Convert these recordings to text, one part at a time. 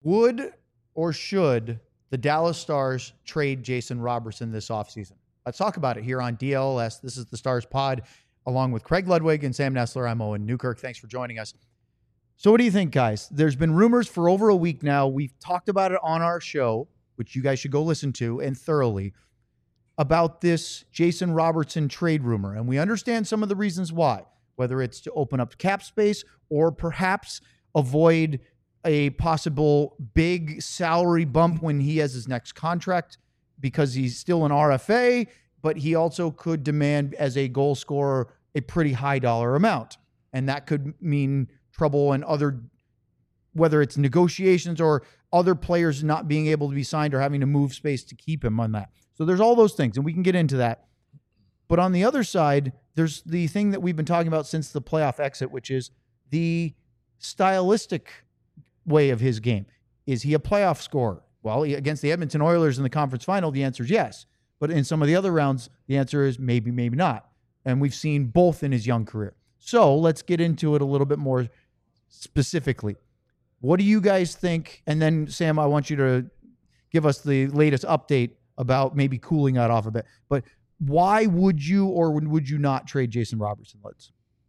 Would or should the Dallas Stars trade Jason Robertson this offseason? Let's talk about it here on DLS. This is the Stars Pod, along with Craig Ludwig and Sam Nestler. I'm Owen Newkirk. Thanks for joining us. So what do you think, guys? There's been rumors for over a week now. We've talked about it on our show, which you guys should go listen to, and thoroughly, about this Jason Robertson trade rumor. And we understand some of the reasons why, whether it's to open up cap space or perhaps avoid a possible big salary bump when he has his next contract because he's still an RFA, but he also could demand as a goal scorer a pretty high dollar amount. And that could mean trouble and other, whether it's negotiations or other players not being able to be signed or having to move space to keep him on that. So there's all those things, and we can get into that. But on the other side, there's the thing that we've been talking about since the playoff exit, which is the stylistic way of his game. Is he a playoff scorer? Well, against the Edmonton Oilers in the conference final, the answer is yes. But in some of the other rounds, the answer is maybe, maybe not. And we've seen both in his young career. So let's get into it a little bit more specifically. What do you guys think? And then, Sam, I want you to give us the latest update about maybe cooling that off a bit. But why would you or would you not trade Jason Robertson, Lids?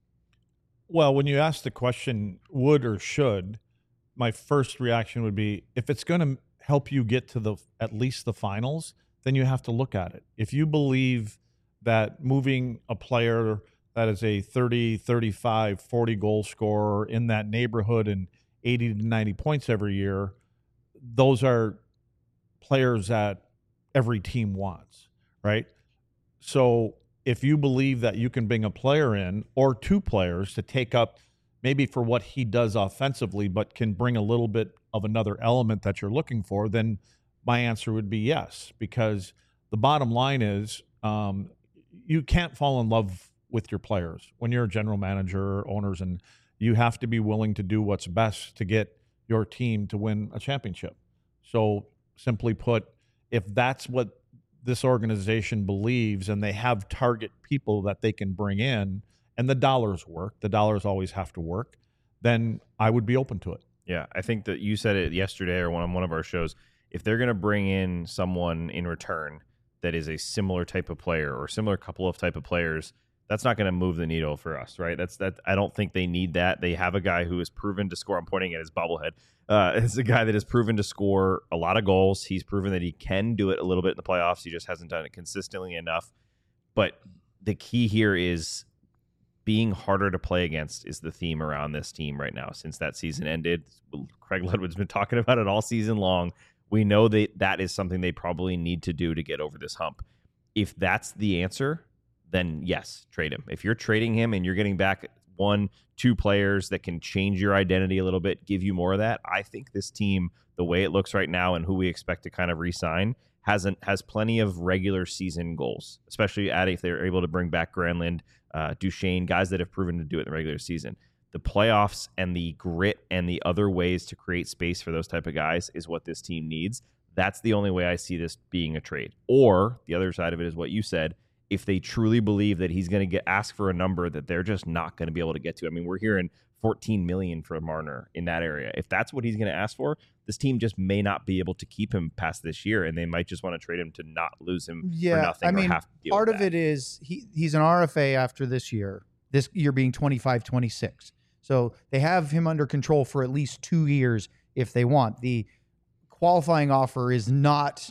Well, when you ask the question, would or should, my first reaction would be, if it's going to help you get to at least the finals, then you have to look at it. If you believe that moving a player that is a 30, 35, 40 goal scorer in that neighborhood and 80 to 90 points every year, those are players that every team wants, right? So if you believe that you can bring a player in or two players to take up maybe for what he does offensively, but can bring a little bit of another element that you're looking for, then my answer would be yes, because the bottom line is you can't fall in love with your players when you're a general manager or owners, and you have to be willing to do what's best to get your team to win a championship. So simply put, if that's what this organization believes and they have target people that they can bring in and the dollars work, the dollars always have to work, then I would be open to it. Yeah, I think that you said it yesterday or on one of our shows. If they're going to bring in someone in return that is a similar type of player or similar couple of type of players, that's not going to move the needle for us, right? I don't think they need that. They have a guy who is proven to score. I'm pointing at his bobblehead. It's a guy that has proven to score a lot of goals. He's proven that he can do it a little bit in the playoffs. He just hasn't done it consistently enough. But the key here is being harder to play against is the theme around this team right now. Since that season ended, Craig Ludwig's been talking about it all season long. We know that is something they probably need to do to get over this hump. If that's the answer, then yes, trade him. If you're trading him and you're getting back 1-2 players that can change your identity a little bit, give you more of that, I think this team, the way it looks right now and who we expect to kind of re-sign, has plenty of regular season goals, especially if they're able to bring back Granlund, Duchesne, guys that have proven to do it in the regular season. The playoffs and the grit and the other ways to create space for those type of guys is what this team needs. That's the only way I see this being a trade. Or the other side of it is what you said. If they truly believe that he's going to ask for a number that they're just not going to be able to get to. I mean, we're hearing $14 million for Marner in that area. If that's what he's going to ask for, this team just may not be able to keep him past this year, and they might just want to trade him to not lose him for nothing. I mean, or have to deal part with of that. it is he's an RFA after this year being 25-26. So they have him under control for at least 2 years if they want. The qualifying offer is not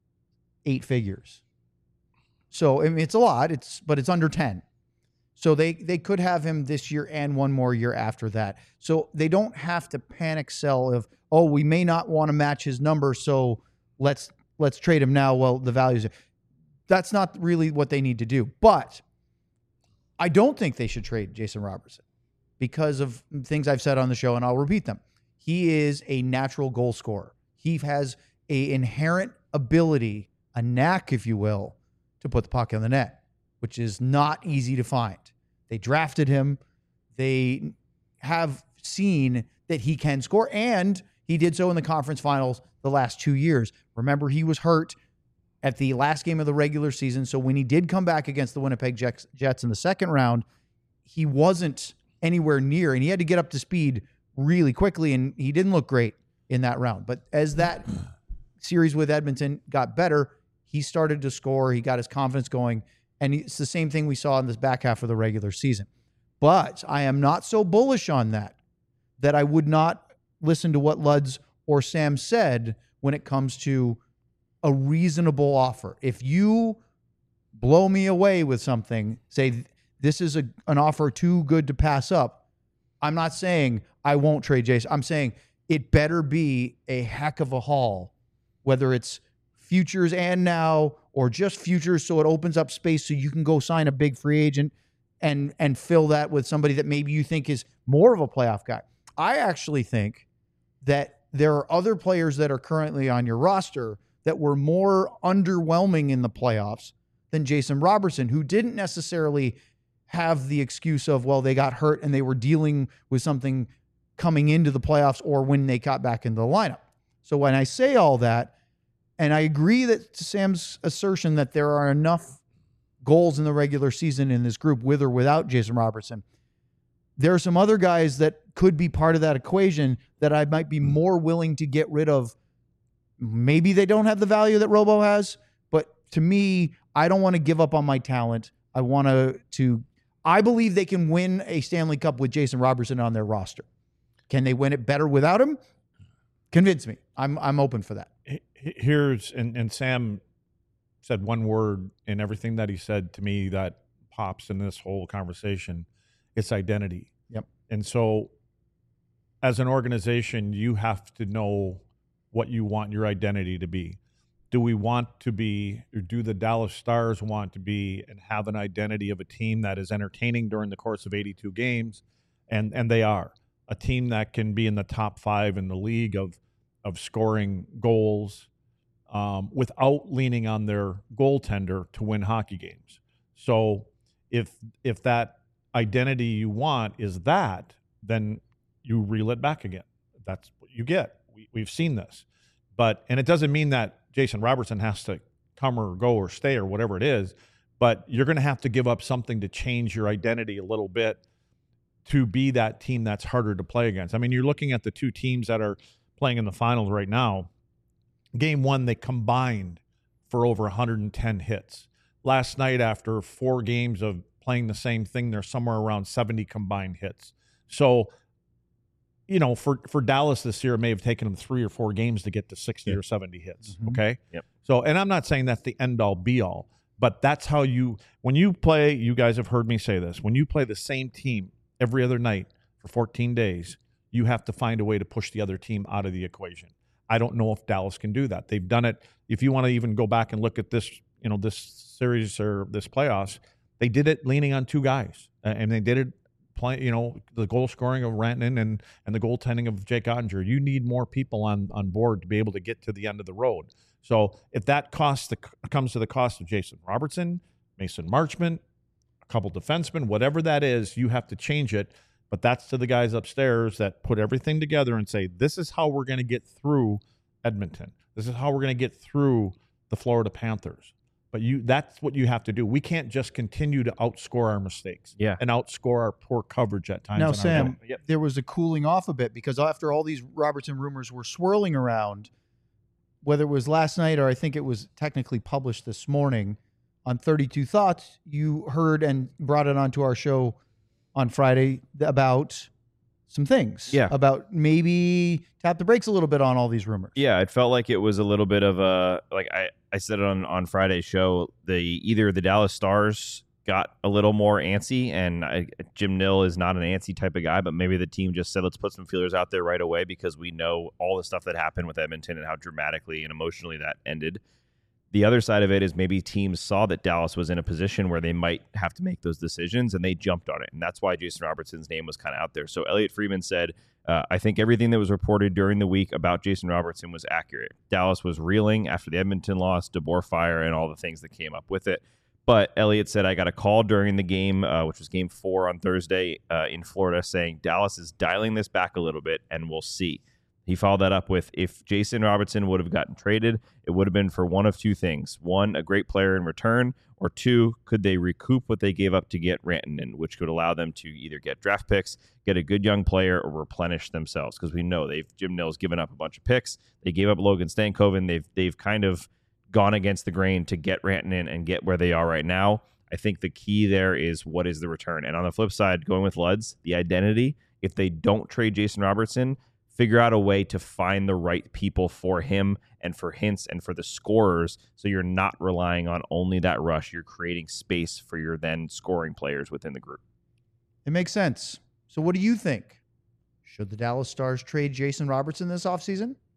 8 figures. So I mean, it's a lot, but it's under 10. So they could have him this year and one more year after that. So they don't have to panic sell of, oh, we may not want to match his number, so let's trade him now. Well, the values, that's not really what they need to do. But I don't think they should trade Jason Robertson because of things I've said on the show, and I'll repeat them. He is a natural goal scorer. He has an inherent ability, a knack, if you will, to put the puck in the net, which is not easy to find. They drafted him. They have seen that he can score, and he did so in the conference finals the last 2 years. Remember, he was hurt at the last game of the regular season, so when he did come back against the Winnipeg Jets in the second round, he wasn't anywhere near, and he had to get up to speed really quickly, and he didn't look great. in that round. But as that series with Edmonton got better, he started to score. He got his confidence going. And it's the same thing we saw in this back half of the regular season. But I am not so bullish on that I would not listen to what Luds or Sam said when it comes to a reasonable offer. If you blow me away with something, say this is an offer too good to pass up, I'm not saying I won't trade Jason. I'm saying it better be a heck of a haul, whether it's futures and now or just futures, so it opens up space so you can go sign a big free agent and fill that with somebody that maybe you think is more of a playoff guy. I actually think that there are other players that are currently on your roster that were more underwhelming in the playoffs than Jason Robertson, who didn't necessarily have the excuse of, well, they got hurt and they were dealing with something coming into the playoffs or when they got back into the lineup. So when I say all that, and I agree that Sam's assertion that there are enough goals in the regular season in this group with or without Jason Robertson, there are some other guys that could be part of that equation that I might be more willing to get rid of. Maybe they don't have the value that Robo has, but to me, I don't want to give up on my talent. I believe they can win a Stanley Cup with Jason Robertson on their roster. Can they win it better without him? Convince me. I'm open for that. And Sam said one word in everything that he said to me that pops in this whole conversation. It's identity. Yep. And so as an organization, you have to know what you want your identity to be. Do we want to be, or do the Dallas Stars want to be and have an identity of a team that is entertaining during the course of 82 games? And they are. A team that can be in the top 5 in the league of scoring goals without leaning on their goaltender to win hockey games. So if that identity you want is that, then you reel it back again. That's what you get. We've seen this. And it doesn't mean that Jason Robertson has to come or go or stay or whatever it is, but you're going to have to give up something to change your identity a little bit to be that team that's harder to play against. I mean, you're looking at the two teams that are playing in the finals right now. Game 1, they combined for over 110 hits. Last night, after 4 games of playing the same thing, they're somewhere around 70 combined hits. So, for Dallas this year, it may have taken them 3 or 4 games to get to 60 or 70 hits. Mm-hmm. Okay. Yep. So, and I'm not saying that's the end all be all, but that's how when you play, you guys have heard me say this, when you play the same team every other night for 14 days, you have to find a way to push the other team out of the equation. I don't know if Dallas can do that. They've done it. If you want to even go back and look at this, this series or this playoffs, they did it leaning on 2 guys, and they did it the goal scoring of Rantanen and the goaltending of Jake Ottinger. You need more people on board to be able to get to the end of the road. So if that comes to the cost of Jason Robertson, Mason Marchment, a couple defensemen, whatever that is, you have to change it. But that's to the guys upstairs that put everything together and say, this is how we're going to get through Edmonton. This is how we're going to get through the Florida Panthers. But that's what you have to do. We can't just continue to outscore our mistakes and outscore our poor coverage at times. Now, Sam, there was a cooling off a bit because after all these Robertson rumors were swirling around, whether it was last night or I think it was technically published this morning on 32 Thoughts, you heard and brought it onto our show on Friday about some things. Yeah. About maybe tap the brakes a little bit on all these rumors. Yeah, it felt like it was a little bit of a, like I said it on Friday's show, either the Dallas Stars got a little more antsy, and Jim Nill is not an antsy type of guy, but maybe the team just said, let's put some feelers out there right away because we know all the stuff that happened with Edmonton and how dramatically and emotionally that ended. The other side of it is maybe teams saw that Dallas was in a position where they might have to make those decisions, and they jumped on it. And that's why Jason Robertson's name was kind of out there. So Elliot Friedman said, I think everything that was reported during the week about Jason Robertson was accurate. Dallas was reeling after the Edmonton loss, DeBoer fire, and all the things that came up with it. But Elliot said, I got a call during the game, which was game 4 on Thursday in Florida, saying Dallas is dialing this back a little bit, and we'll see. He followed that up with, if Jason Robertson would have gotten traded, it would have been for one of two things. One, a great player in return, or two, could they recoup what they gave up to get Rantanen, which could allow them to either get draft picks, get a good young player, or replenish themselves. Because we know Jim Nill's given up a bunch of picks. They gave up Logan Stankoven. They've kind of gone against the grain to get Rantanen and get where they are right now. I think the key there is, what is the return? And on the flip side, going with Luds, the identity, if they don't trade Jason Robertson, figure out a way to find the right people for him and for Hintz and for the scorers, so you're not relying on only that rush. You're creating space for your then scoring players within the group. It makes sense. So what do you think? Should the Dallas Stars trade Jason Robertson this offseason?